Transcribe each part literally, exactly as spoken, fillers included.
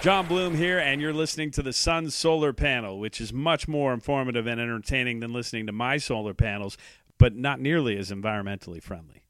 John Bloom here, and you're listening to the Sun's Solar Panel, which is much more informative and entertaining than listening to my solar panels, but not nearly as environmentally friendly.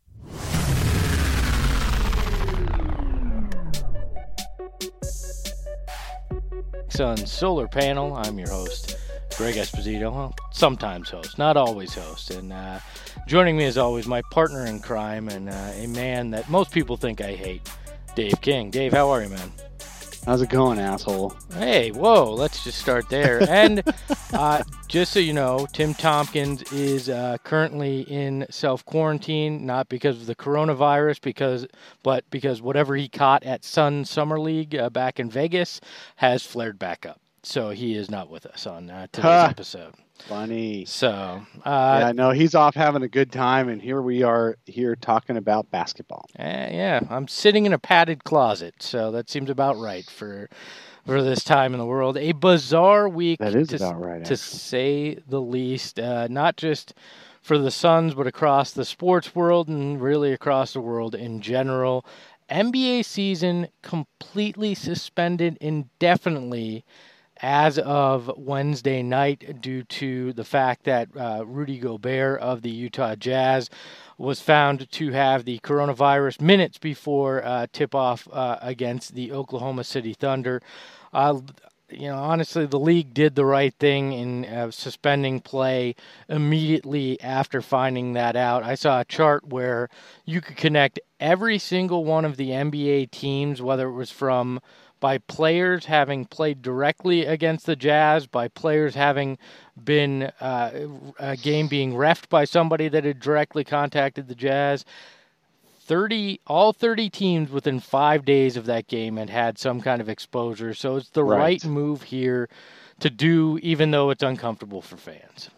Sun's Solar Panel. I'm your host, Greg Esposito. Well, sometimes host, not always host. And uh, joining me, as always, my partner in crime and uh, a man that most people think I hate, Dave King. Dave, how are you, man? How's it going, asshole? Hey, whoa, let's just start there. And uh, just so you know, Tim Tompkins is uh, currently in self-quarantine, not because of the coronavirus, because but because whatever he caught at Sun Summer League uh, back in Vegas has flared back up. So he is not with us on uh, today's huh. episode. Funny. So, uh, yeah, no, he's off having a good time, and here we are here talking about basketball. Uh, yeah, I'm sitting in a padded closet, so that seems about right for for this time in the world. A bizarre week, that is to, about right, to actually. say the least. Uh, not just for the Suns, but across the sports world and really across the world in general. N B A season completely suspended indefinitely as of Wednesday night due to the fact that uh, Rudy Gobert of the Utah Jazz was found to have the coronavirus minutes before uh, tip-off uh, against the Oklahoma City Thunder. Uh, you know, honestly, the league did the right thing in uh, suspending play immediately after finding that out. I saw a chart where you could connect every single one of the N B A teams, whether it was from by players having played directly against the Jazz, by players having been uh, a game being reffed by somebody that had directly contacted the Jazz. thirty, all thirty teams within five days of that game had had some kind of exposure. So it's the right, right move here to do, even though it's uncomfortable for fans.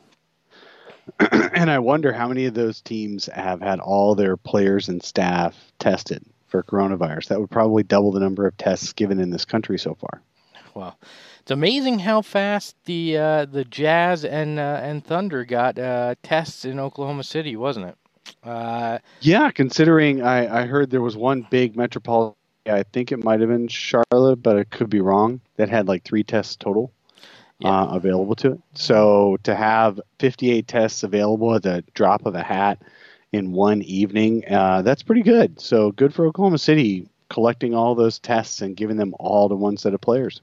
And I wonder how many of those teams have had all their players and staff tested for coronavirus. That would probably double the number of tests given in this country so far. Well, it's amazing how fast the uh, the Jazz and uh, and Thunder got uh, tests in Oklahoma City, wasn't it? Uh, yeah, considering I, I heard there was one big metropolitan, I think it might have been Charlotte, but it could be wrong, that had like three tests total yeah. uh, available to it. So to have fifty-eight tests available at the drop of a hat in one evening, uh, that's pretty good. So good for Oklahoma City collecting all those tests and giving them all to one set of players.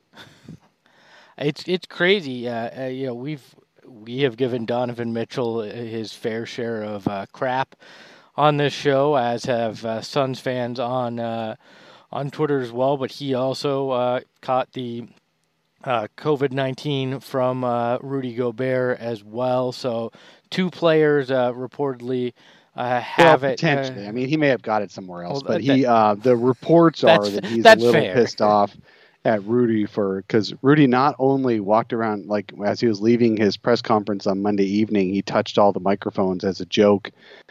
It's it's crazy. Uh, uh, you know, we've we have given Donovan Mitchell his fair share of uh, crap on this show, as have uh, Suns fans on uh, on Twitter as well. But he also uh, caught the uh, COVID nineteen from uh, Rudy Gobert as well. So two players uh, reportedly. Uh, have well, it potentially. Uh, I mean, he may have got it somewhere else, well, but he that, uh, the reports are that he's a little fair. pissed off at Rudy for because Rudy not only walked around like as he was leaving his press conference on Monday evening, he touched all the microphones as a joke,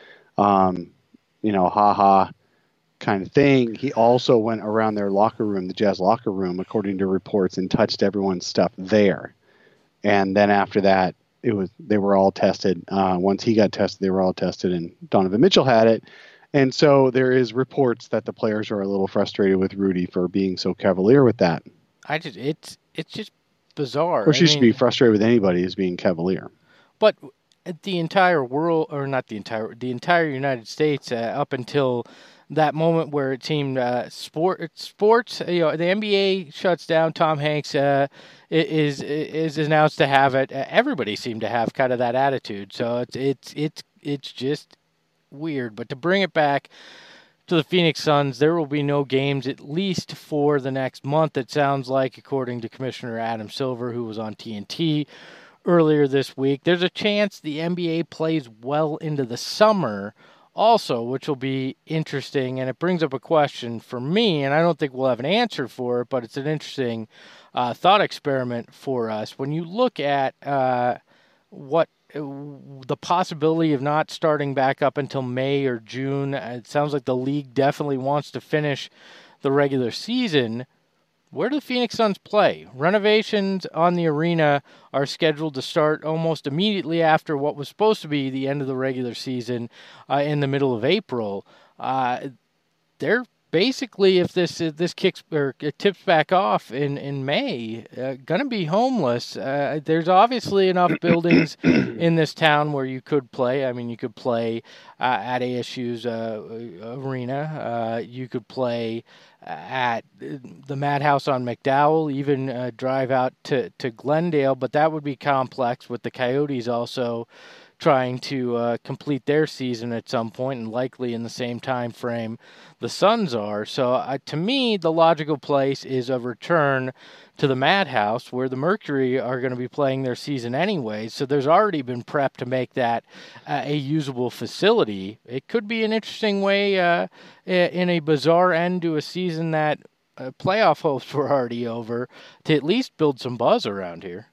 um, you know, ha ha kind of thing. He also went around their locker room, the Jazz locker room, according to reports, and touched everyone's stuff there. And then after that, It was they were all tested. Uh, once he got tested, they were all tested, and Donovan Mitchell had it. And so there is reports that the players are a little frustrated with Rudy for being so cavalier with that. I just it's it's just bizarre. Or she I should mean, be frustrated with anybody as being cavalier. But the entire world, or not the entire, the entire United States, uh, up until that moment where it seemed uh, sport sports, you know, the N B A shuts down. Tom Hanks uh, is is announced to have it. Uh, everybody seemed to have kind of that attitude. So it's it's it's it's just weird. But to bring it back to the Phoenix Suns, there will be no games at least for the next month. It sounds like, according to Commissioner Adam Silver, who was on T N T earlier this week. There's a chance the N B A plays well into the summer also, which will be interesting, and it brings up a question for me, and I don't think we'll have an answer for it, but it's an interesting uh, thought experiment for us. When you look at uh, what uh, the possibility of not starting back up until May or June, it sounds like the league definitely wants to finish the regular season. Where do the Phoenix Suns play? Renovations on the arena are scheduled to start almost immediately after what was supposed to be the end of the regular season uh, in the middle of April. Uh, they're basically, if this if this kicks or it tips back off in in May, uh, gonna be homeless. Uh, there's obviously enough buildings in this town where you could play. I mean, you could play uh, at A S U's uh, arena. Uh, you could play at the Madhouse on McDowell, even uh, drive out to, to Glendale, but that would be complex with the Coyotes also trying to uh, complete their season at some point and likely in the same time frame the Suns are. So uh, to me, the logical place is a return to the Madhouse where the Mercury are going to be playing their season anyway. So there's already been prep to make that uh, a usable facility. It could be an interesting way uh, in a bizarre end to a season that uh, playoff hopes were already over to at least build some buzz around here.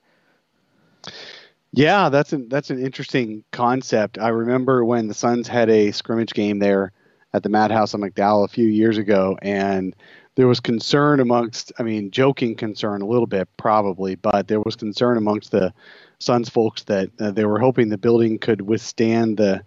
Yeah, that's an that's an interesting concept. I remember when the Suns had a scrimmage game there at the Madhouse on McDowell a few years ago, and there was concern amongst, I mean, joking concern a little bit probably, but there was concern amongst the Suns folks that uh, they were hoping the building could withstand the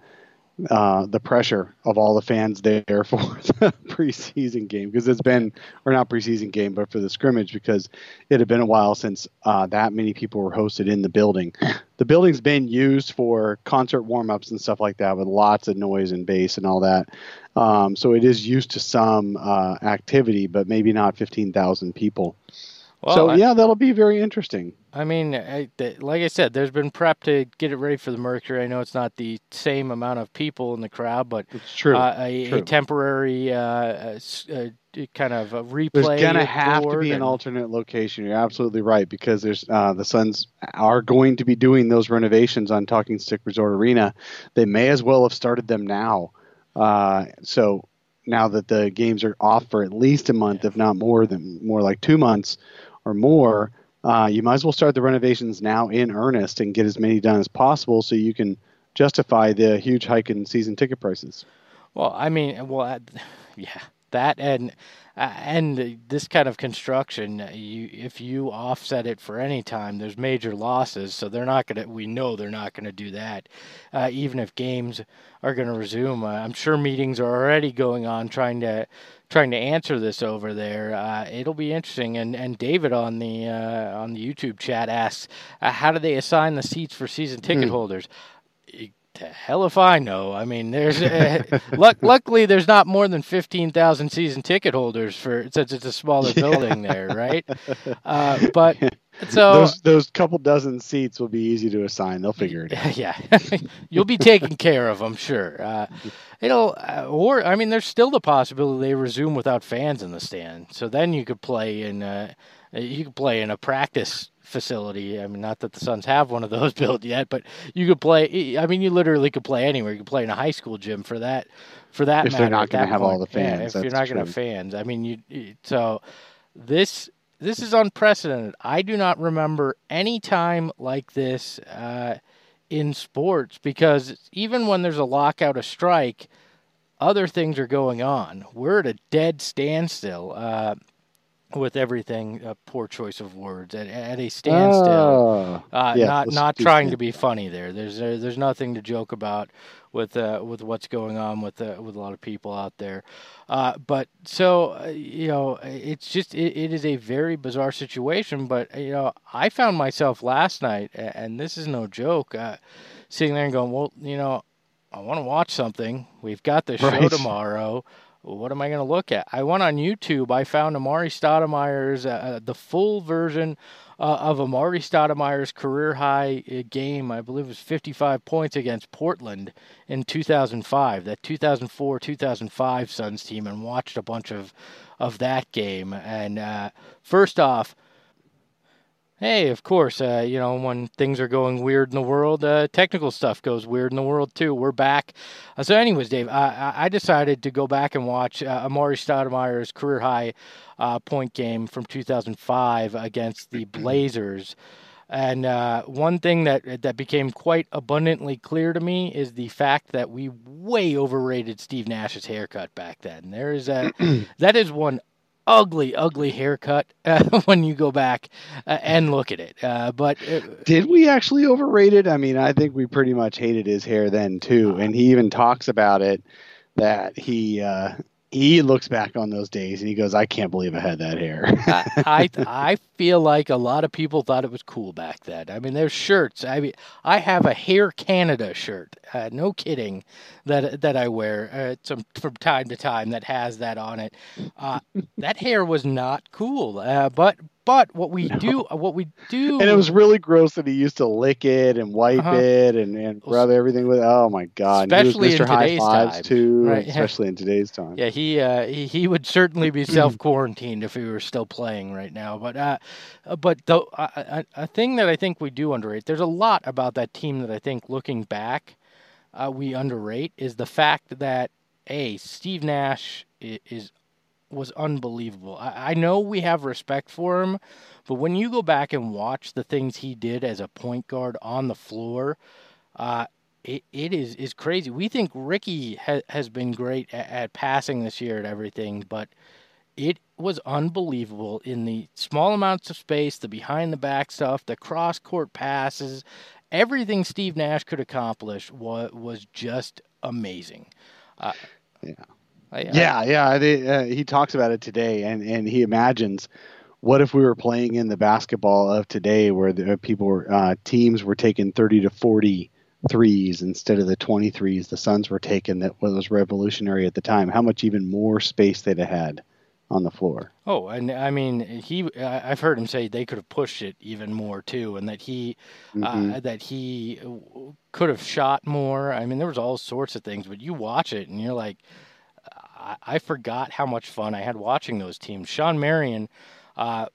uh, the pressure of all the fans there for the preseason game, because it's been, or not preseason game, but for the scrimmage, because it had been a while since uh, that many people were hosted in the building. The building's been used for concert warm-ups and stuff like that with lots of noise and bass and all that. Um, so it is used to some uh, activity, but maybe not fifteen thousand people. Well, so, I, yeah, that'll be very interesting. I mean, I, th- like I said, there's been prep to get it ready for the Mercury. I know it's not the same amount of people in the crowd, but it's true. Uh, a, true. a temporary uh, uh, uh, kind of a replay. There's going to have to be and... an alternate location. You're absolutely right, because there's uh, the Suns are going to be doing those renovations on Talking Stick Resort Arena. They may as well have started them now. Uh, so now that the games are off for at least a month, yeah. if not more than more like two months or more, uh, you might as well start the renovations now in earnest and get as many done as possible so you can justify the huge hike in season ticket prices. Well, I mean, well, uh, yeah, that and uh, and this kind of construction, you if you offset it for any time, there's major losses. So they're not going to. We know they're not going to do that, uh, even if games are going to resume. Uh, I'm sure meetings are already going on trying to. trying to answer this over there. Uh, it'll be interesting. And and David on the uh, on the YouTube chat asks, uh, how do they assign the seats for season ticket mm. holders? The hell if I know. I mean, there's uh, luck, luckily there's not more than fifteen thousand season ticket holders for since it's a smaller building there, right? Uh, but so those those couple dozen seats will be easy to assign. They'll figure it out. Yeah, you'll be taken care of, I'm sure. Uh, it'll uh, or I mean, there's still the possibility they resume without fans in the stand. So then you could play in uh, you could play in a practice facility. I mean, not that the Suns have one of those built yet, but you could play. I mean, you literally could play anywhere. You could play in a high school gym for that. For that if matter, they're not going to have point. all the fans, yeah, if you're not going to have fans, I mean, you. So this this is unprecedented. I do not remember any time like this uh, in sports, because even when there's a lockout, a strike, other things are going on. We're at a dead standstill. Uh, with everything, a uh, poor choice of words, at, at a standstill. Oh, uh, yes, not not trying to be funny there. There's uh, there's nothing to joke about with uh, with what's going on with uh, with a lot of people out there. Uh, but so uh, you know, it's just it, it is a very bizarre situation. But you know, I found myself last night, and this is no joke, uh, sitting there and going, well, you know, I want to watch something. We've got the show right. tomorrow. What am I going to look at? I went on YouTube. I found Amari Stoudemire's, uh, the full version uh, of Amari Stoudemire's career-high uh, game. I believe it was fifty-five points against Portland in two thousand five, that two thousand four two thousand five Suns team, and watched a bunch of, of that game. And uh, first off, hey, of course, uh, you know, when things are going weird in the world, uh, technical stuff goes weird in the world, too. We're back. Uh, so anyways, Dave, I, I decided to go back and watch uh, Amari Stoudemire's career-high uh, point game from two thousand five against the Blazers. And uh, one thing that that became quite abundantly clear to me is the fact that we way overrated Steve Nash's haircut back then. There is a that is one ugly, ugly haircut uh, when you go back uh, and look at it. Uh, but it, did we actually overrate it? I mean, I think we pretty much hated his hair then too, and he even talks about it that he uh, he looks back on those days and he goes, I can't believe I had that hair. I, I I feel like a lot of people thought it was cool back then. I mean, there's shirts. I mean, I have a Hair Canada shirt. Uh, no kidding, that that I wear uh, some from time to time that has that on it. Uh, that hair was not cool. Uh, but but what we No. do, what we do, And it was really gross that he used to lick it and wipe Uh-huh. it and, and rub everything with. Oh my God! And he was Especially in Mister High today's Fives time. too, Right. especially in today's time. Yeah, he uh, he, he would certainly be self quarantined if he were still playing right now. But uh, uh, but the uh, a, a thing that I think we do underrate. There's a lot about that team that I think, looking back, uh, we underrate is the fact that a Steve Nash is, is was unbelievable. I, I know we have respect for him, but when you go back and watch the things he did as a point guard on the floor, uh, it, it is, is crazy. We think Ricky ha- has been great at, at passing this year and everything, but it was unbelievable in the small amounts of space, the behind the back stuff, the cross court passes, everything Steve Nash could accomplish was, was just amazing. Uh, Yeah. I, I- Yeah, yeah. They, uh, he talks about it today, and, and he imagines what if we were playing in the basketball of today, where the people were uh, teams were taking thirty to forty threes instead of the twenty-threes the Suns were taking. That was revolutionary at the time. How much even more space they'd have had on the floor. Oh, and I mean, he. I- I've heard him say they could have pushed it even more too, and that he, Mhm. uh, that he could have shot more. I mean, there was all sorts of things, but you watch it and you're like, I, I forgot how much fun I had watching those teams. Sean Marion, uh,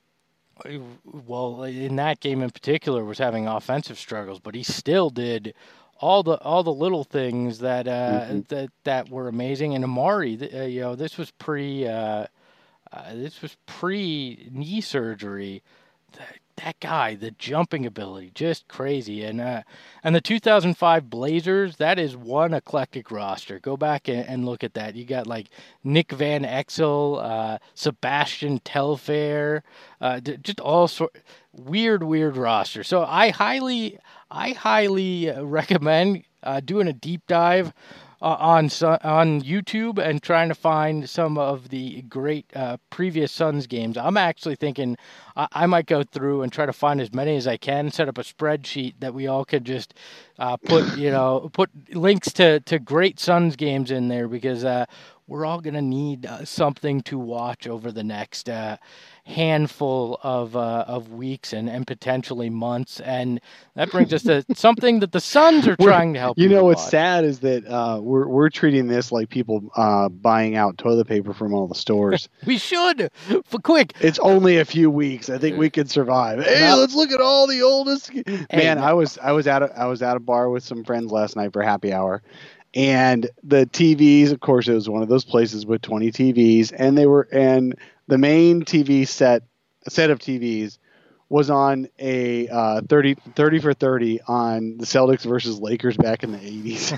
well, in that game in particular, was having offensive struggles, but he still did all the all the little things that uh, Mhm. that that were amazing. And Amari, th- uh, you know, this was pre uh, uh, this was pre knee surgery. That, that guy, the jumping ability, just crazy. And uh, and the two thousand five Blazers, that is one eclectic roster. Go back and, and look at that. You got like Nick Van Exel, uh, Sebastian Telfair, uh, d- just all sort weird, weird roster. So I highly, I highly uh, recommend uh, doing a deep dive uh, on Su- on YouTube and trying to find some of the great uh, previous Suns games. I'm actually thinking I, I might go through and try to find as many as I can. Set up a spreadsheet that we all could just uh, put, you know, put links to to great Suns games in there, because uh, we're all gonna need uh, something to watch over the next uh, handful of uh, of weeks and, and potentially months. And that brings us to something that the Suns are We're- trying to help You know people what's watch. sad is that uh, we're we're treating this like people uh, buying out toilet paper from all the stores. We should, for quick. It's only a few weeks. I think we could survive. Hey, No. let's look at all the oldest. Man, no. I was I was at a, I was at a bar with some friends last night for happy hour, and the T Vs. Of course, it was one of those places with twenty T Vs, and they were and the main T V set set of T Vs was on a uh, thirty, thirty for thirty on the Celtics versus Lakers back in the eighties.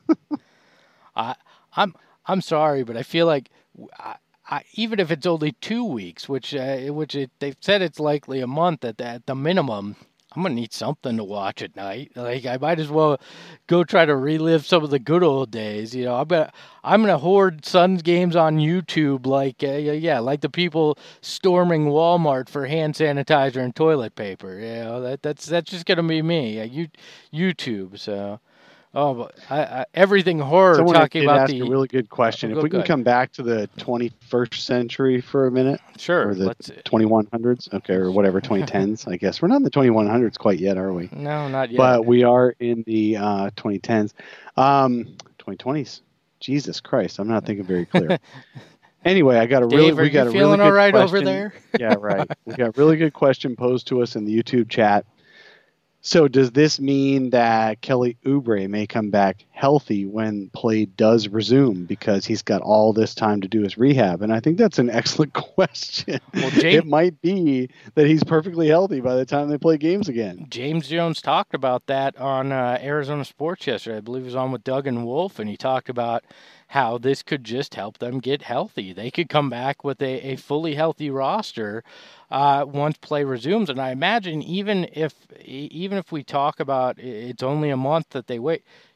I, I'm I'm sorry, but I feel like I, I, even if it's only two weeks, which uh, which it, they've said it's likely a month at the, at the minimum, I'm gonna need something to watch at night. Like I might as well go try to relive some of the good old days. You know, I'm gonna I'm gonna hoard Suns games on YouTube, like uh, yeah, like the people storming Walmart for hand sanitizer and toilet paper. You know, that that's that's just gonna be me. Uh, you, YouTube. So, oh, but I, I, everything horror Someone talking did about ask the a really good question. Oh, if go- we can good. come back to the twenty-first century for a minute, sure. or the Let's twenty-one hundreds, okay, or whatever, twenty tens, I guess. We're not in the twenty-one hundreds quite yet, are we? no, not yet. But we are in the uh, twenty tens. Um, twenty twenties. Jesus Christ, I'm not thinking very clear. Anyway, I got a really Dave, are we got you a feeling really good all right question. over there? Yeah, right. We got a really good question posed to us in the YouTube chat. So does this mean that Kelly Oubre may come back healthy when play does resume, because he's got all this time to do his rehab? And I think that's an excellent question. Well, James- it might be that he's perfectly healthy by the time they play games again. James Jones talked about that on uh, Arizona Sports yesterday. I believe he was on with Doug and Wolf, and he talked about how this could just help them get healthy. They could come back with a, a fully healthy roster uh, once play resumes. And I imagine even if even if we talk about it's only a month that they wait,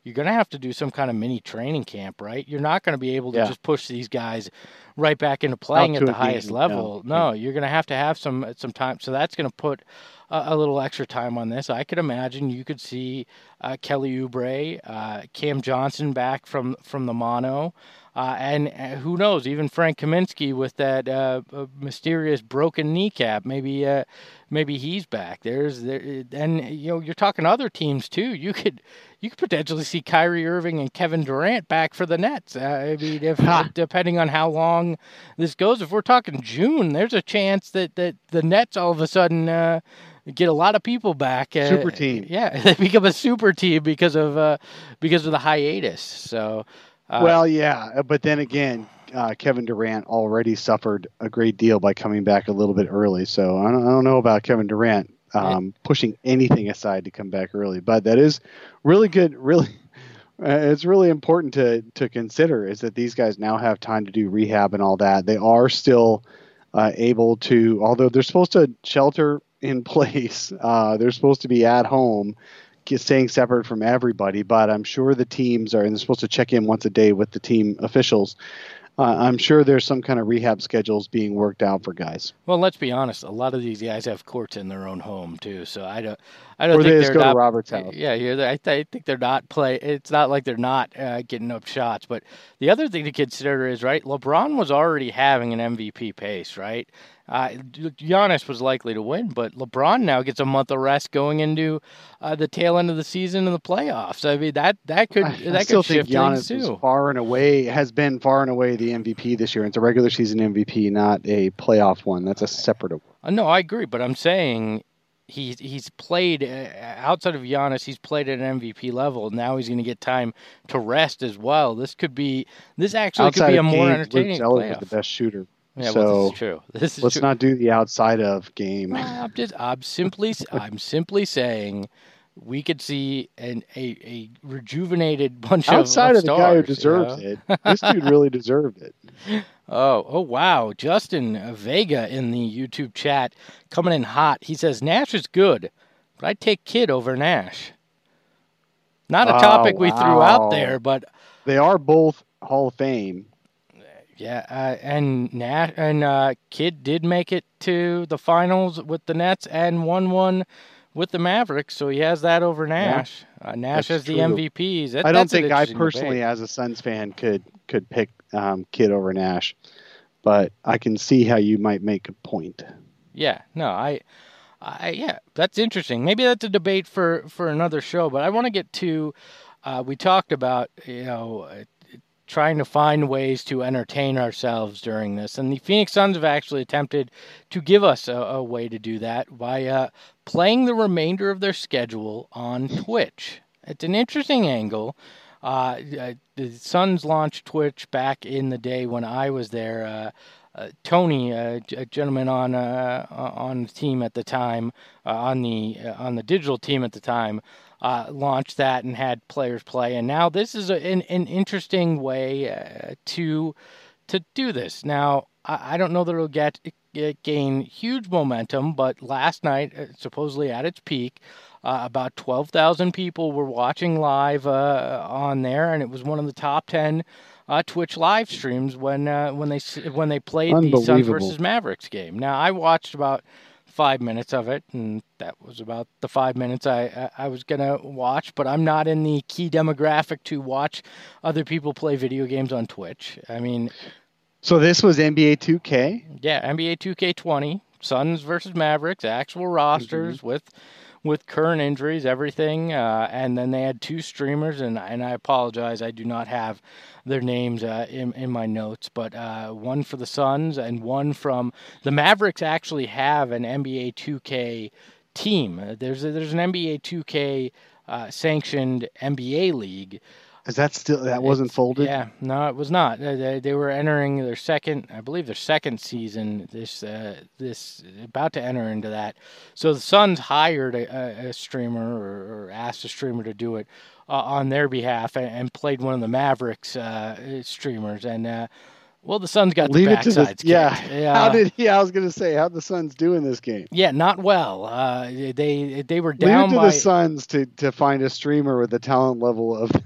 you're going to have to do some kind of mini training camp, right? You're not going to be able to Yeah. just push these guys right back into playing Out at to the a highest game, level. no. No, you're going to have to have some some time. So that's going to put a, a little extra time on this. I could imagine you could see uh, Kelly Oubre, uh, Cam Johnson back from, from the mono. Uh, and uh, who knows, even Frank Kaminsky with that uh, uh, mysterious broken kneecap, maybe uh, maybe he's back. There's there, and you know you're talking other teams too. You could you could potentially see Kyrie Irving and Kevin Durant back for the Nets. Uh, I mean, if Ha. depending on how long this goes, if we're talking June, there's a chance that, that the Nets all of a sudden uh, get a lot of people back. Uh, Super team. Yeah, they become a super team because of uh, because of the hiatus. So. Uh, well, yeah, but then again, uh, Kevin Durant already suffered a great deal by coming back a little bit early. So I don't, I don't know about Kevin Durant um, pushing anything aside to come back early, but that is really good. Really, uh, it's really important to to consider is that these guys now have time to do rehab and all that. They are still uh, able to, although they're supposed to shelter in place, uh, they're supposed to be at home, staying separate from everybody, but I'm sure the teams are, and they're supposed to check in once a day with the team officials. Uh, I'm sure there's some kind of rehab schedules being worked out for guys. Well, let's be honest. A lot of these guys have courts in their own home too, so I don't, I don't Or think they they're just go not, to Robert's house. Yeah, yeah. I, th- I think they're not play. It's not like they're not uh, getting up shots. But the other thing to consider is right. LeBron was already having an M V P pace, right? Uh, Giannis was likely to win, but LeBron now gets a month of rest going into uh, the tail end of the season and the playoffs. I mean that that could I, that I still could shift think things Giannis is too. far and away has been far and away the M V P this year. It's a regular season M V P, not a playoff one. That's a separate award. Uh, no, I agree, but I'm saying he's he's played uh, outside of Giannis. He's played at an M V P level. Now he's going to get time to rest as well. This could be this actually Outside could be a of more games, entertaining Luke Zeller playoff. is the best shooter. Yeah, so well, this is true. This is let's true. not do the outside of game. Well, I'm just I'm simply I'm simply saying we could see an a, a rejuvenated bunch Outside of, of the stars, guy who you deserves know? it, this dude really deserved it. Oh, oh wow. Justin Vega in the YouTube chat coming in hot. He says Nash is good, but I'd take Kidd over Nash. Not a Oh, topic we threw out wow. there, but They are both Hall of Fame. yeah, uh, and Nash and uh, Kidd did make it to the finals with the Nets and won one with the Mavericks, so he has that over Nash. Uh, Nash That's has the true. M V Ps. That, I don't that's an think I interesting personally, debate. as a Suns fan, could could pick um, Kidd over Nash, but I can see how you might make a point. Yeah, no, I, I, yeah, that's interesting. Maybe that's a debate for, for another show. But I want to get to, uh, we talked about, you know, uh, trying to find ways to entertain ourselves during this, and the Phoenix Suns have actually attempted to give us a, a way to do that by uh, playing the remainder of their schedule on Twitch. It's an interesting angle. Uh, uh, the Suns launched Twitch back in the day when I was there. Uh, Uh, Tony, uh, a gentleman on uh, on the team at the time, uh, on the uh, on the digital team at the time, uh, launched that and had players play. And now this is a, an an interesting way uh, to to do this. Now I, I don't know that it'll get, get gain huge momentum, but last night, uh, supposedly at its peak, uh, about twelve thousand people were watching live uh, on there, and it was one of the top ten. Uh, Twitch live streams when uh, when they when they played the Suns versus Mavericks game. Now I watched about five minutes of it, and that was about the five minutes I I, I was gonna watch. But I'm not in the key demographic to watch other people play video games on Twitch. I mean, so this was N B A two K. Yeah, N B A two K twenty, Suns versus Mavericks, actual rosters mm-hmm. with. with current injuries, everything, uh, and then they had two streamers, and and I apologize, I do not have their names uh, in in my notes, but uh, one for the Suns and one from the Mavericks. Actually, have an N B A two K team. There's a, there's an N B A two K uh, sanctioned N B A league. Is that still that wasn't it's, folded? Yeah, no, it was not. They, they were entering their second, I believe, their second season. This, uh, this about to enter into that. So the Suns hired a, a streamer or, or asked a streamer to do it uh, on their behalf, and, and played one of the Mavericks uh, streamers. And uh, well, the Suns got Leave the it to backsides the, yeah. kicked. Yeah. How did? Yeah, I was gonna say how the Suns do in this game. Yeah, not well. Uh, they they were Leave down it to by the Suns to to find a streamer with the talent level of.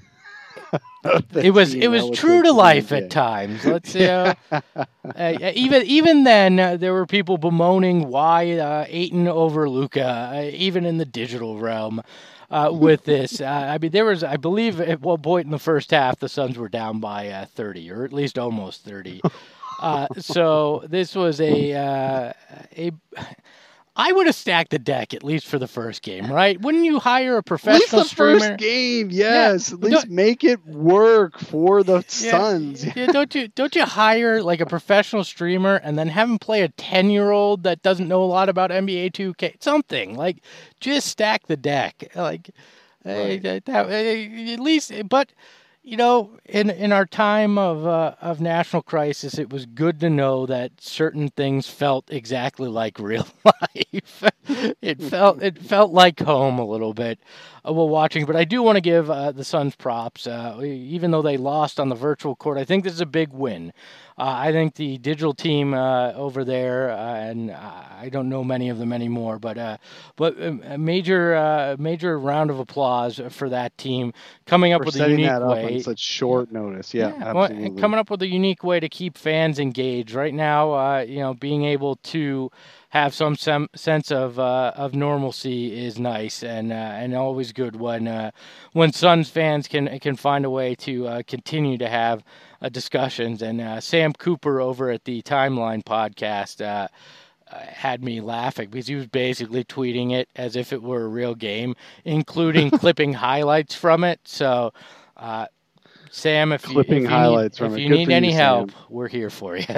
it was it was true to life at times. Let's you know, uh, even even then uh, there were people bemoaning why uh, Ayton over Luka, uh, even in the digital realm. Uh, with this, uh, I mean, there was, I believe, at one point in the first half, the Suns were down by uh, thirty, or at least almost thirty. Uh, so this was a uh, a. I would have stacked the deck at least for the first game, right? Wouldn't you hire a professional at least the streamer? First game, yes. Yeah. At least Don't, make it work for the yeah, Suns. Yeah, don't you don't you hire like a professional streamer and then have him play a ten-year-old that doesn't know a lot about N B A two K? Something like just stack the deck, like right. uh, that, uh, at least. But you know, in in our time of uh, of national crisis, it was good to know that certain things felt exactly like real life. it felt it felt like home a little bit uh, while watching. But I do want to give uh, the Suns props, uh, even though they lost on the virtual court. I think this is a big win. Uh, I think the digital team uh, over there, uh, and I don't know many of them anymore, but uh, but a major uh, major round of applause for that team coming up for with a unique that way. Up on such short notice, yeah, yeah absolutely. Well, coming up with a unique way to keep fans engaged. Right now, uh, you know, being able to have some, some sense of uh, of normalcy is nice and uh, and always good when uh, when Suns fans can can find a way to uh, continue to have uh, discussions. And uh, Sam Cooper over at the Timeline podcast uh, uh, had me laughing because he was basically tweeting it as if it were a real game, including clipping highlights from it. So. Uh, Sam, if you, if you highlights need, from if it. you Good need for any you, help, Sam. we're here for you.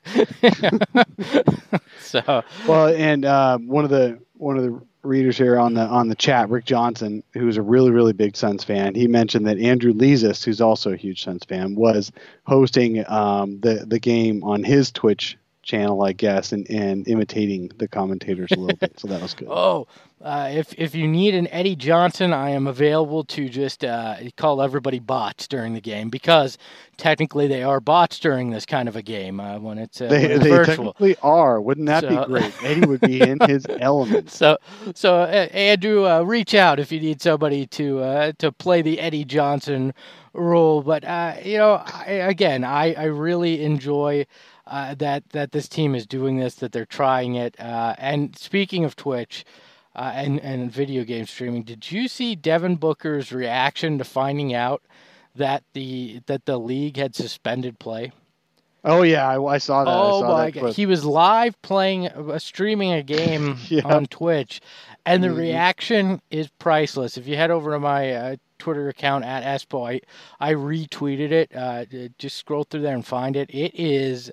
so, well, and uh, one of the one of the readers here on the on the chat, Rick Johnson, who's a really really big Suns fan, he mentioned that Andrew Leasis, who's also a huge Suns fan, was hosting um, the the game on his Twitch channel, I guess, and, and imitating the commentators a little bit. So that was good. Oh, uh, if if you need an Eddie Johnson, I am available to just uh, call everybody bots during the game because technically they are bots during this kind of a game uh, when it's, uh, they, when it's they virtual. technically are. Wouldn't that so, be great? Eddie would be in his element. So, so uh, Andrew, uh, reach out if you need somebody to uh, to play the Eddie Johnson role. But uh, you know, I, again, I, I really enjoy. Uh, that that this team is doing this, that they're trying it. Uh, and speaking of Twitch uh, and, and video game streaming, did you see Devin Booker's reaction to finding out that the that the league had suspended play? Oh, yeah, I, I saw that. Oh, I saw my that God. clip. He was live playing, uh, streaming a game yeah. on Twitch, and the mm-hmm. reaction is priceless. If you head over to my uh, Twitter account at Espo, I, I retweeted it. Uh, just scroll through there and find it. It is...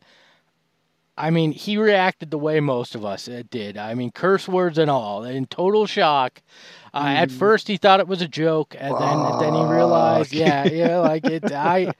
I mean, he reacted the way most of us did. I mean, curse words and all, in total shock. Uh, mm. At first, he thought it was a joke, and then Fuck. then he realized, yeah, yeah, like it. I,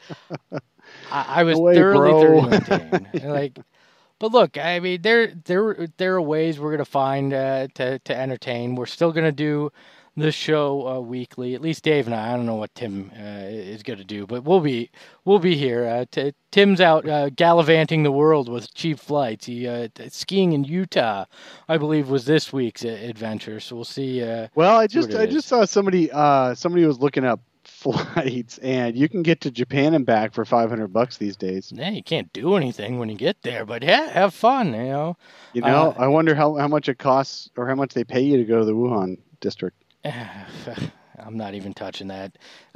I, I was way, thoroughly, bro. thoroughly entertained. Like, but look, I mean, there, there, there are ways we're gonna find uh, to to entertain. We're still gonna do this show uh, weekly. At least Dave and I. I don't know what Tim uh, is going to do, but we'll be we'll be here. Uh, t- Tim's out uh, gallivanting the world with cheap flights. He uh, skiing in Utah, I believe, was this week's uh, adventure. So we'll see. Uh, well, I just I is. just saw somebody uh, somebody was looking up flights, and you can get to Japan and back for five hundred bucks these days. Yeah, you can't do anything when you get there, but yeah, have fun. You know. You know, uh, I wonder how how much it costs or how much they pay you to go to the Wuhan district. I'm not even touching that.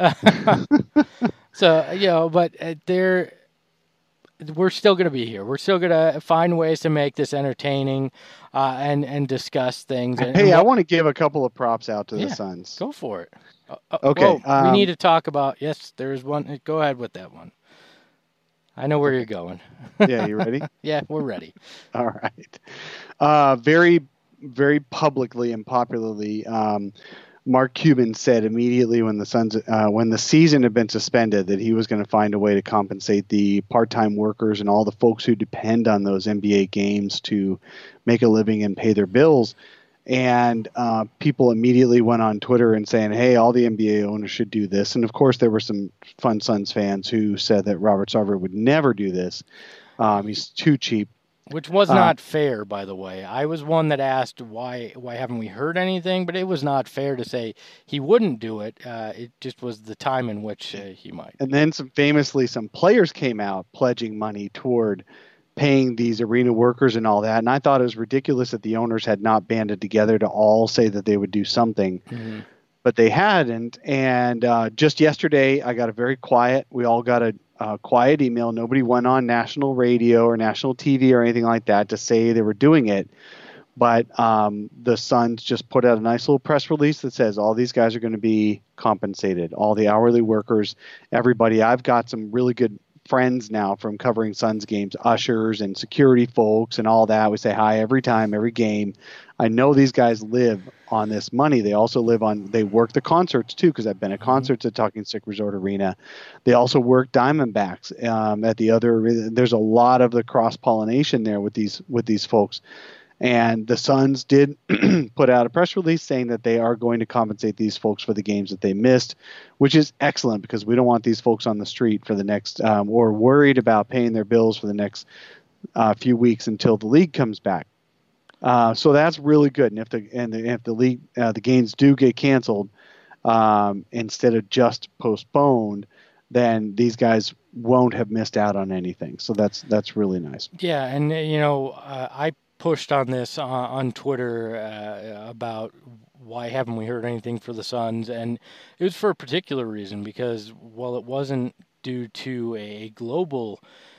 So, you know, but uh, they're, we're still going to be here. We're still going to find ways to make this entertaining uh, and, and discuss things. And, hey, and I what, want to give a couple of props out to yeah, the Suns. Go for it. Uh, okay. Whoa, um, we need to talk about, yes, there's one. Go ahead with that one. I know where you're going. Yeah, you ready? Yeah, we're ready. All right. Uh, very, very publicly and popularly, um, Mark Cuban said immediately when the Suns, uh, when the season had been suspended, that he was going to find a way to compensate the part-time workers and all the folks who depend on those N B A games to make a living and pay their bills. And uh, people immediately went on Twitter and saying, hey, all the N B A owners should do this. And, of course, there were some fun Suns fans who said that Robert Sarver would never do this. Um, he's too cheap. Which was Uh, not fair, by the way. I was one that asked why why haven't we heard anything, but it was not fair to say he wouldn't do it. Uh, it just was the time in which uh, he might. And then some famously, some players came out pledging money toward paying these arena workers and all that. And I thought it was ridiculous that the owners had not banded together to all say that they would do something, Mm-hmm. but they hadn't. And uh, just yesterday, I got a very quiet, we all got a uh, quiet email. Nobody went on national radio or national T V or anything like that to say they were doing it. But um, the Suns just put out a nice little press release that says all these guys are going to be compensated, all the hourly workers, everybody. I've got some really good friends now from covering Suns games, ushers and security folks and all that. We say hi every time, every game. I know these guys live on this money. They also live on, they work the concerts too, because I've been at concerts at Talking Stick Resort Arena. They also work Diamondbacks um, at the other, there's a lot of the cross-pollination there with these with these folks. And the Suns did put out a press release saying that they are going to compensate these folks for the games that they missed, which is excellent because we don't want these folks on the street for the next, um, or worried about paying their bills for the next uh, few weeks until the league comes back. Uh, so that's really good. And if the and the, if the league uh, the games do get canceled um, instead of just postponed, then these guys won't have missed out on anything. So that's that's really nice. Yeah, and uh, you know, uh, I pushed on this on, on Twitter uh, about why haven't we heard anything for the Suns, and it was for a particular reason, because while it wasn't due to a global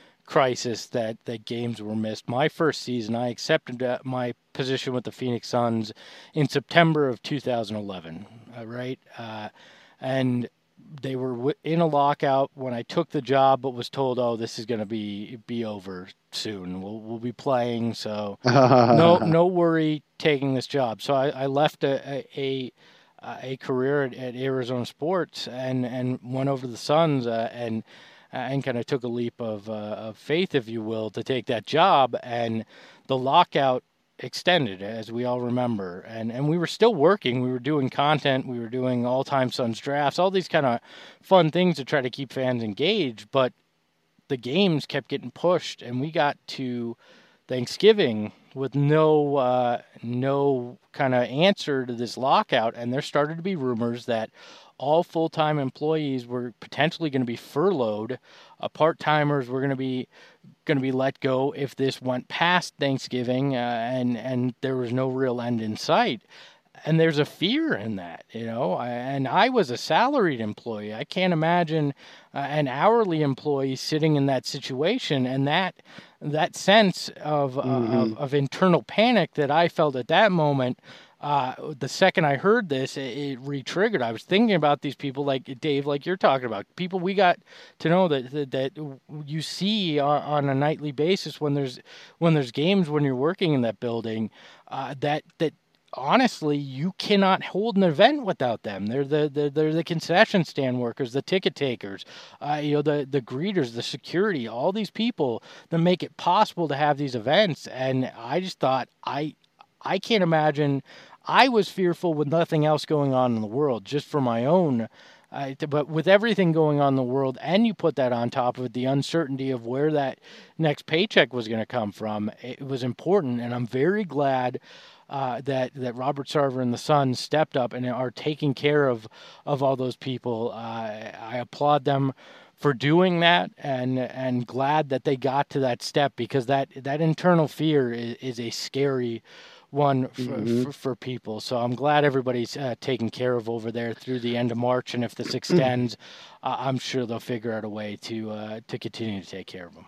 crisis that, that games were missed, my first season I accepted uh, my position with the Phoenix Suns in September of two thousand eleven, uh, right? Uh, and they were w- in a lockout when I took the job, but was told, "Oh, this is going to be be over soon. We'll we'll be playing, so no no worry taking this job." So I, I left a a, a, a career at, at Arizona Sports and, and went over to the Suns uh, and and kind of took a leap of uh, of faith, if you will, to take that job. And the lockout extended, as we all remember, and and we were still working. We were doing content, we were doing all-time Suns drafts, all these kind of fun things to try to keep fans engaged, but the games kept getting pushed, and we got to Thanksgiving with no uh, no kind of answer to this lockout, and there started to be rumors that all full-time employees were potentially going to be furloughed. Uh, part-timers were going to be going to be let go if this went past Thanksgiving, uh, and and there was no real end in sight. And there's a fear in that, you know. And I was a salaried employee. I can't imagine uh, an hourly employee sitting in that situation, and that that sense of mm-hmm. uh, of, of internal panic that I felt at that moment. Uh, the second I heard this, it, it re-triggered. I was thinking about these people, like Dave, like you're talking about, people we got to know that that, that you see on, on a nightly basis when there's when there's games, when you're working in that building. Uh, that that honestly, you cannot hold an event without them. They're the, the they're the concession stand workers, the ticket takers, uh, you know, the the greeters, the security, all these people that make it possible to have these events. And I just thought I. I can't imagine. I was fearful with nothing else going on in the world, just for my own. Uh, but with everything going on in the world, and you put that on top of it, the uncertainty of where that next paycheck was going to come from, it was important. And I'm very glad uh, that that Robert Sarver and the Suns stepped up and are taking care of of all those people. Uh, I applaud them for doing that, and and glad that they got to that step, because that that internal fear is, is a scary one for, mm-hmm. for, for people. So I'm glad everybody's uh, taken care of over there through the end of March, and if this extends, uh, I'm sure they'll figure out a way to uh, to continue to take care of them.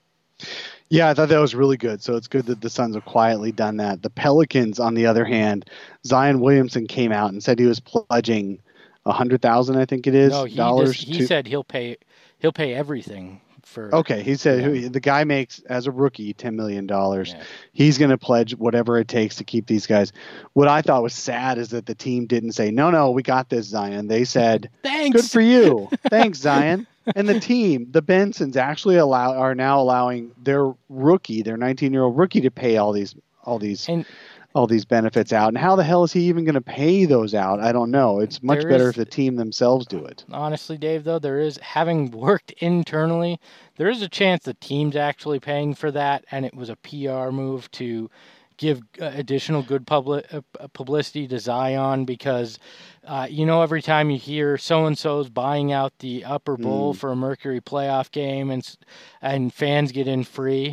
Yeah, I thought that was really good. So it's good that the Suns have quietly done that. The Pelicans, on the other hand, Zion Williamson came out and said he was pledging a hundred thousand, I think it is, no, he dollars. Just, he to... said he'll pay he'll pay everything. For, okay, he said yeah. who, the guy makes, as a rookie, ten million dollars. Yeah. He's going to pledge whatever it takes to keep these guys. What I thought was sad is that the team didn't say, no, no, we got this, Zion. They said, thanks. Good for you. Thanks, Zion. And the team, the Bensons, actually allow are now allowing their rookie, their nineteen-year-old rookie, to pay all these all these and, all these benefits out. And how the hell is he even going to pay those out? I don't know. It's much There better is- if the team themselves do it. Honestly, Dave, though, there is, having worked internally, there is a chance the team's actually paying for that, and it was a P R move to give uh, additional good public uh, publicity to Zion because, uh, you know, every time you hear so-and-so's buying out the upper bowl Mm. for a Mercury playoff game and s- and fans get in free,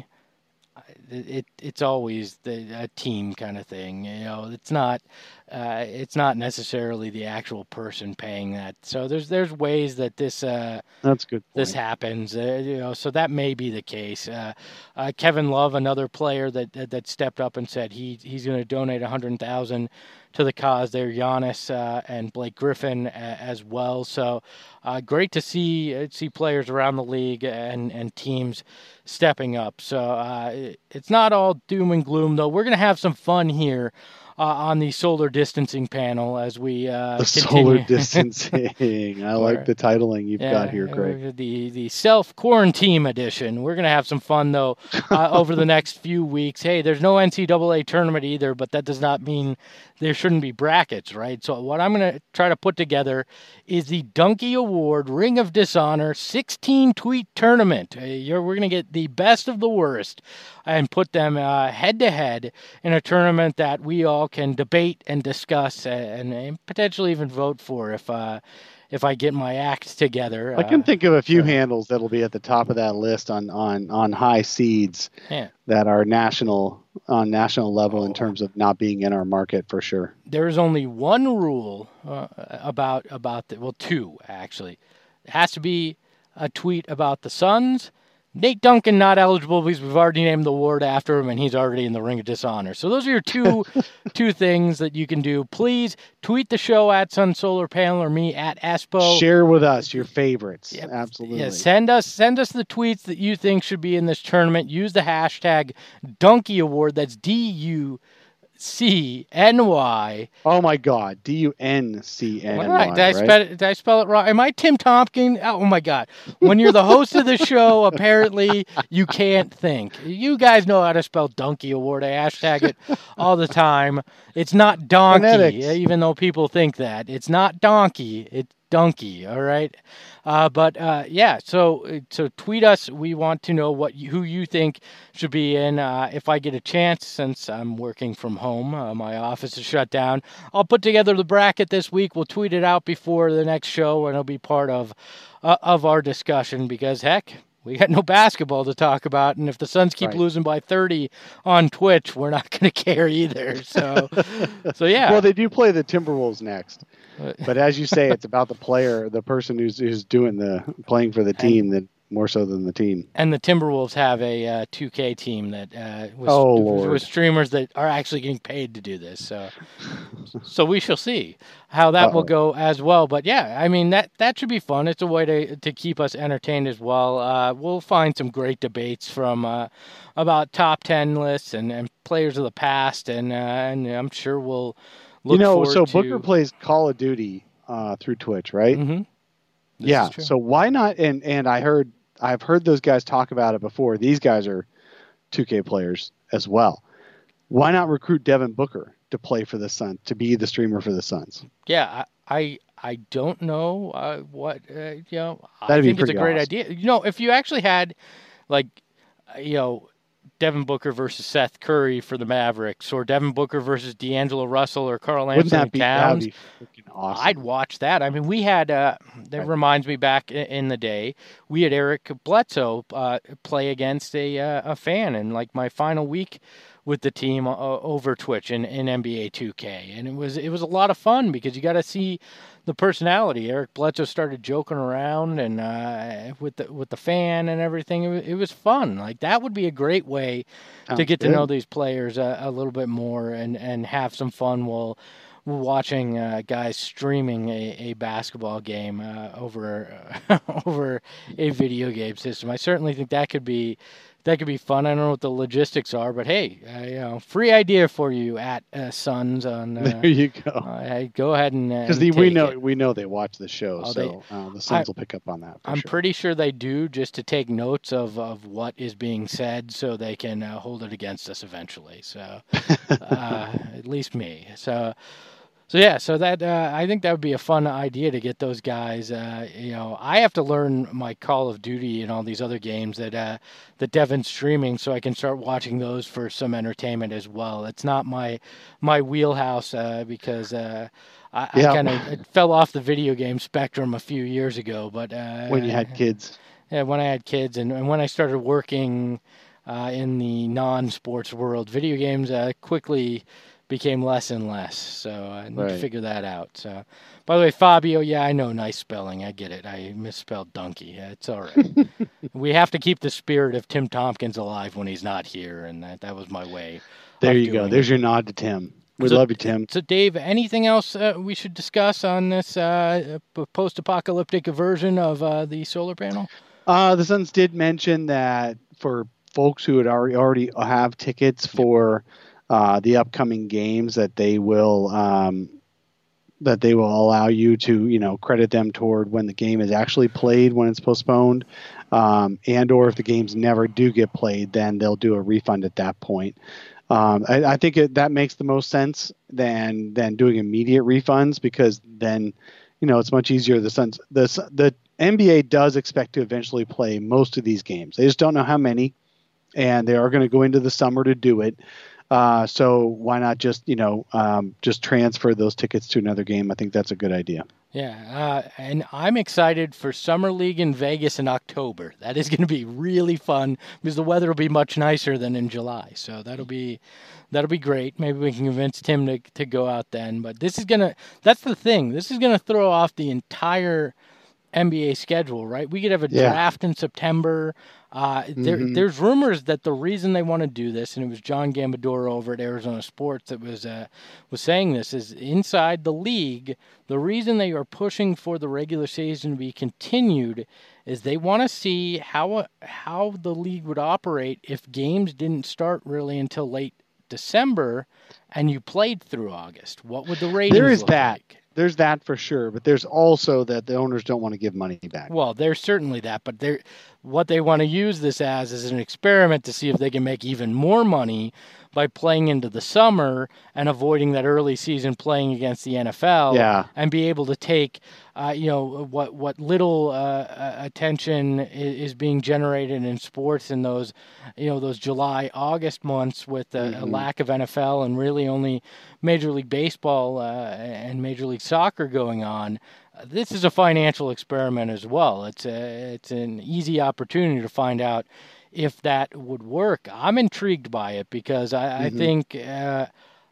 it, it it's always the a team kind of thing. You know, it's not uh, it's not necessarily the actual person paying that. So there's there's ways that this uh, That's a good. this point. happens. Uh, you know, so that may be the case. Uh, uh, Kevin Love, another player that that, that stepped up and said he he's going to donate a hundred thousand to the cause. There, Giannis uh, and Blake Griffin uh, as well. So uh, great to see uh, see players around the league and and teams stepping up. So uh, it, it's not all doom and gloom, though. We're going to have some fun here uh, on the solar distancing panel as we uh, The continue. solar distancing. I Or- like the titling you've got here, uh, Greg. The the self quarantine edition. We're gonna have some fun though uh, over the next few weeks. Hey, there's no N C double A tournament either, but that does not mean there shouldn't be brackets, right? So what I'm gonna try to put together is the Donkey Award Ring of Dishonor sixteen tweet tournament. Uh, you're, we're gonna get the best of the worst and put them uh, head to head in a tournament that we all can debate and discuss and, and potentially even vote for if. Uh, if I get my act together. I can uh, think of a few so- handles that'll be at the top of that list on on on high seeds Yeah. that are national on national level in Oh. terms of not being in our market for sure. There is only one rule uh, about about the, well, two actually. It has to be a tweet about the Suns. Nate Duncan not eligible because we've already named the award after him, and he's already in the Ring of Dishonor. So those are your two two things that you can do. Please tweet the show at Sun Solar Panel or me at Espo. Share with us your favorites. Yep. Absolutely. Yeah, send us send us the tweets that you think should be in this tournament. Use the hashtag Donkey Award. That's D U C N Y. Oh my God. D U N C N Y. All right. Did I, right? spell it, did I spell it wrong? Am I Tim Tompkins? Oh, my God. When you're the host of the show, apparently you can't think. You guys know how to spell Donkey Award. I hashtag it all the time. It's not donkey, Phonetics. even though people think that. It's not donkey. It's donkey, all right? Uh, but, uh, yeah, so so tweet us. We want to know what you, who you think should be in. Uh, if I get a chance, since I'm working from home, uh, my office is shut down, I'll put together the bracket this week. We'll tweet it out before the next show, and it'll be part of uh, of our discussion because, heck, we got no basketball to talk about, and if the Suns keep Right. losing by thirty on Twitch, we're not going to care either. So, so yeah. Well, they do play the Timberwolves next. But as you say, it's about the player, the person who's who's doing the playing for the team, that more so than the team. And the Timberwolves have a uh, two K team that uh, was, Oh, Lord. with streamers that are actually getting paid to do this. So, so we shall see how that will Uh-oh. go as well. But yeah, I mean that that should be fun. It's a way to to keep us entertained as well. Uh, we'll find some great debates from uh, about top ten lists and, and players of the past, and uh, and I'm sure we'll look you know, forward so to. Booker plays Call of Duty uh, through Twitch, right? Mm-hmm. Yeah. So why not? And and I heard I've heard those guys talk about it before. These guys are two K players as well. Why not recruit Devin Booker to play for the Suns, to be the streamer for the Suns? Yeah, I I, I don't know uh, what uh, you know. I That'd be think it's a pretty great awesome. idea. You know, if you actually had like uh, you know Devin Booker versus Seth Curry for the Mavericks, or Devin Booker versus D'Angelo Russell or Carl Wouldn't Anthony that be that'd Towns, be freaking awesome? I'd watch that. I mean, we had, uh, that Right. reminds me back i- in the day, we had Eric Bledsoe uh, play against a uh, a fan in like my final week with the team uh, over Twitch in, in N B A two K. And it was it was a lot of fun because you got to see the personality. Eric Bledsoe started joking around and uh, with the with the fan and everything. It was, it was fun. Like that would be a great way to Sounds get to good. know these players a, a little bit more and, and have some fun while watching uh, guys streaming a, a basketball game uh, over over a video game system. I certainly think that could be that could be fun. I don't know what the logistics are, but hey, uh, you know, free idea for you at uh, Suns on. Uh, there you go. Uh, hey, go ahead and because uh, we know it. we know they watch the show, oh, so they, uh, the Suns I, will pick up on that. For I'm sure. pretty sure they do, just to take notes of, of what is being said, so they can uh, hold it against us eventually. So, uh, at least me. So. So yeah, so that uh, I think that would be a fun idea to get those guys. Uh, you know, I have to learn my Call of Duty and all these other games that uh, that Devin's streaming, so I can start watching those for some entertainment as well. It's not my my wheelhouse uh, because uh, I, Yeah. I kind of fell off the video game spectrum a few years ago. But uh, when you had kids, yeah, when I had kids, and, and when I started working uh, in the non-sports world, video games uh, quickly became less and less, so I need Right. to figure that out. So, by the way, Fabio, yeah, I know, nice spelling. I get it. I misspelled donkey. Yeah, it's all right. We have to keep the spirit of Tim Tompkins alive when he's not here, and that, that was my way. there of you go. doing There's it. your nod to Tim. We So- love you, Tim. So, Dave, anything else uh, we should discuss on this uh, p- post-apocalyptic version of uh, the solar panel? Uh, the Suns did mention that for folks who had already already have tickets for uh, the upcoming games, that they will um, that they will allow you to you know credit them toward when the game is actually played when it's postponed, um, and or if the games never do get played, then they'll do a refund at that point. Um, I, I think it, that makes the most sense than than doing immediate refunds, because then you know it's much easier. The Suns the the N B A does expect to eventually play most of these games. They just don't know how many, and they are going to go into the summer to do it. Uh, so why not just, you know, um, just transfer those tickets to another game? I think that's a good idea. Yeah, uh, and I'm excited for Summer League in Vegas in October. That is going to be really fun because the weather will be much nicer than in July. So that'll be that'll be great. Maybe we can convince Tim to to go out then. But this is gonna that's the thing. This is gonna throw off the entire N B A schedule, right? We could have a Yeah. draft in September. Uh, there, Mhm. There's rumors that the reason they want to do this, and it was John Gambadoro over at Arizona Sports that was uh, was saying this, is inside the league, the reason they are pushing for the regular season to be continued is they want to see how how the league would operate if games didn't start really until late December and you played through August. What would the ratings There is look that. like? There's that for sure, but there's also that the owners don't want to give money back. Well, there's certainly that, but they're, what they want to use this as is an experiment to see if they can make even more money by playing into the summer and avoiding that early season playing against the N F L, Yeah. and be able to take, uh, you know, what what little uh, attention is, is being generated in sports in those, you know, those July August months with a, Mhm. a lack of N F L and really only Major League Baseball uh, and Major League Soccer going on. This is a financial experiment as well. It's a, it's an easy opportunity to find out if that would work. I'm intrigued by it because I, I Mhm. think uh,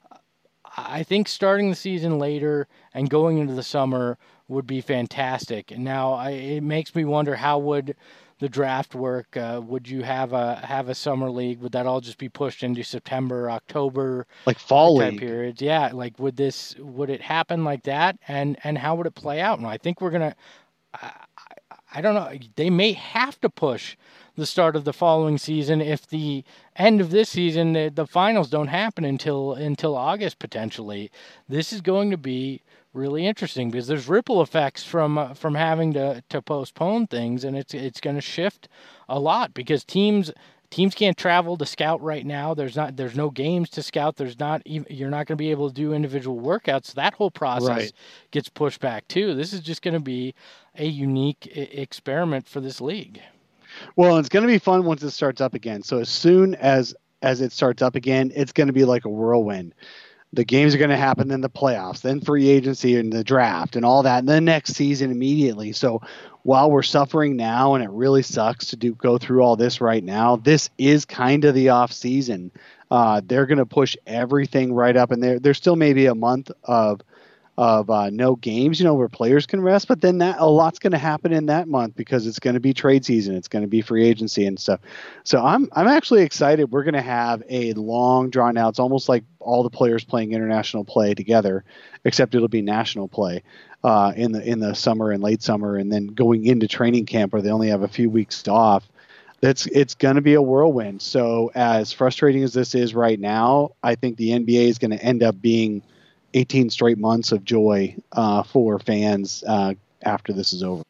I think starting the season later and going into the summer would be fantastic. Now, I, it makes me wonder, how would the draft work? Uh, would you have a have a summer league? Would that all just be pushed into September, October? Like fall Time league. periods, yeah. Like, would this would it happen like that, and and how would it play out? And I think we're gonna, I, I, I don't know. They may have to push the start of the following season if the end of this season, the, the finals don't happen until until August potentially. This is going to be really interesting because there's ripple effects from uh, from having to to postpone things, and it's it's going to shift a lot because teams. Teams can't travel to scout right now. There's not. There's no games to scout. There's not. Even, you're not going to be able to do individual workouts. That whole process Right. gets pushed back too. This is just going to be a unique I- experiment for this league. Well, it's going to be fun once it starts up again. So as soon as as it starts up again, it's going to be like a whirlwind. The games are going to happen, then the playoffs, then free agency and the draft and all that, and then next season immediately. So while we're suffering now, and it really sucks to do go through all this right now, this is kind of the off season. Uh, they're going to push everything right up, and there there's still maybe a month of of uh, no games, you know, where players can rest. But then that a lot's going to happen in that month because it's going to be trade season, it's going to be free agency and stuff. So I'm I'm actually excited. We're going to have a long drawn out. It's almost like all the players playing international play together, except it'll be national play uh, in the in the summer and late summer, and then going into training camp where they only have a few weeks off. It's it's going to be a whirlwind. So as frustrating as this is right now, I think the N B A is going to end up being eighteen straight months of joy uh, for fans uh, after this is over.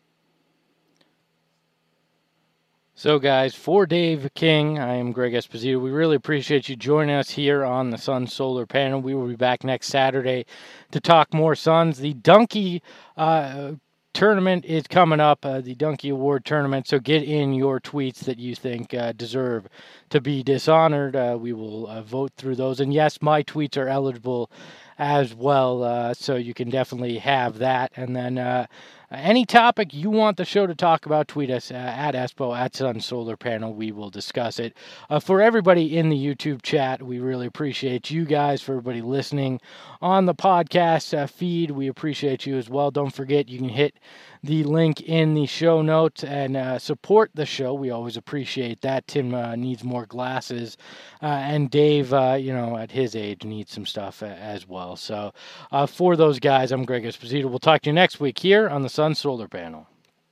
So, guys, for Dave King, I am Greg Esposito. We really appreciate you joining us here on the Sun Solar Panel. We will be back next Saturday to talk more Suns. The Donkey uh, tournament is coming up, uh, the Donkey Award tournament. So get in your tweets that you think uh, deserve to be dishonored. Uh, we will uh, vote through those. And yes, my tweets are eligible as well, uh, so you can definitely have that. And then uh, any topic you want the show to talk about, tweet us uh, at Espo, at Sun Solar Panel. We will discuss it. Uh, for everybody in the YouTube chat, we really appreciate you guys, for everybody listening on the podcast uh, feed. We appreciate you as well. Don't forget, you can hit the link in the show notes and uh, support the show. We always appreciate that. Tim uh, needs more glasses, uh, and Dave, uh, you know, at his age, needs some stuff uh, as well. So uh, for those guys, I'm Greg Esposito. We'll talk to you next week here on the Sun Solar Panel.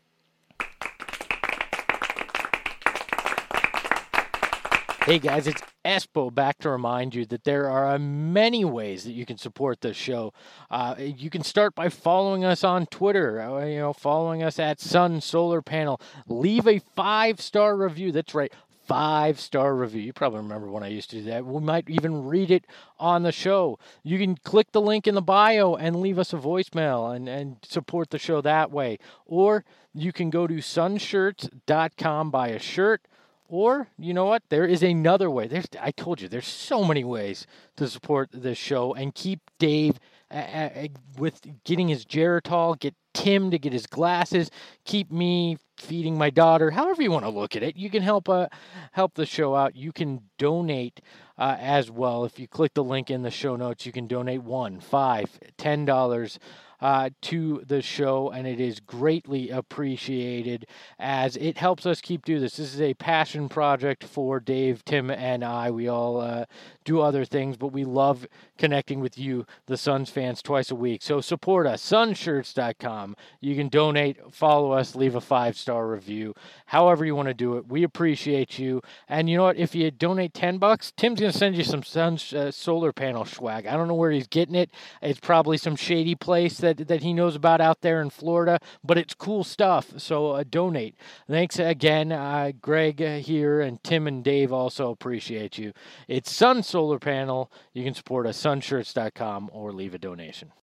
Hey guys, it's Espo back to remind you that there are many ways that you can support this show. Uh, you can start by following us on Twitter, uh, you know, following us at Sun Solar Panel. Leave a five-star review. That's right, five-star review. You probably remember when I used to do that. We might even read it on the show. You can click the link in the bio and leave us a voicemail and, and support the show that way. Or you can go to sun shirts dot com, buy a shirt. Or, you know what, there is another way. There's, I told you, there's so many ways to support this show and keep Dave uh, uh, with getting his Geritol, get Tim to get his glasses, keep me feeding my daughter, however you want to look at it. You can help uh, help the show out. You can donate uh, as well. If you click the link in the show notes, you can donate one, five, ten dollars. Uh, to the show, and it is greatly appreciated as it helps us keep doing this. This is a passion project for Dave, Tim, and I. We all uh, do other things, but we love connecting with you, the Suns fans, twice a week. So support us, sun shirts dot com. You can donate, follow us, leave a five-star review, however you want to do it. We appreciate you. And you know what? If you donate ten bucks, Tim's going to send you some Sun uh, solar panel swag. I don't know where he's getting it. It's probably some shady place that that he knows about out there in Florida, but it's cool stuff, so uh, donate. Thanks again, uh, Greg uh, here, and Tim and Dave also appreciate you. It's Sun Solar Panel. You can support us, sun shirts dot com, or leave a donation.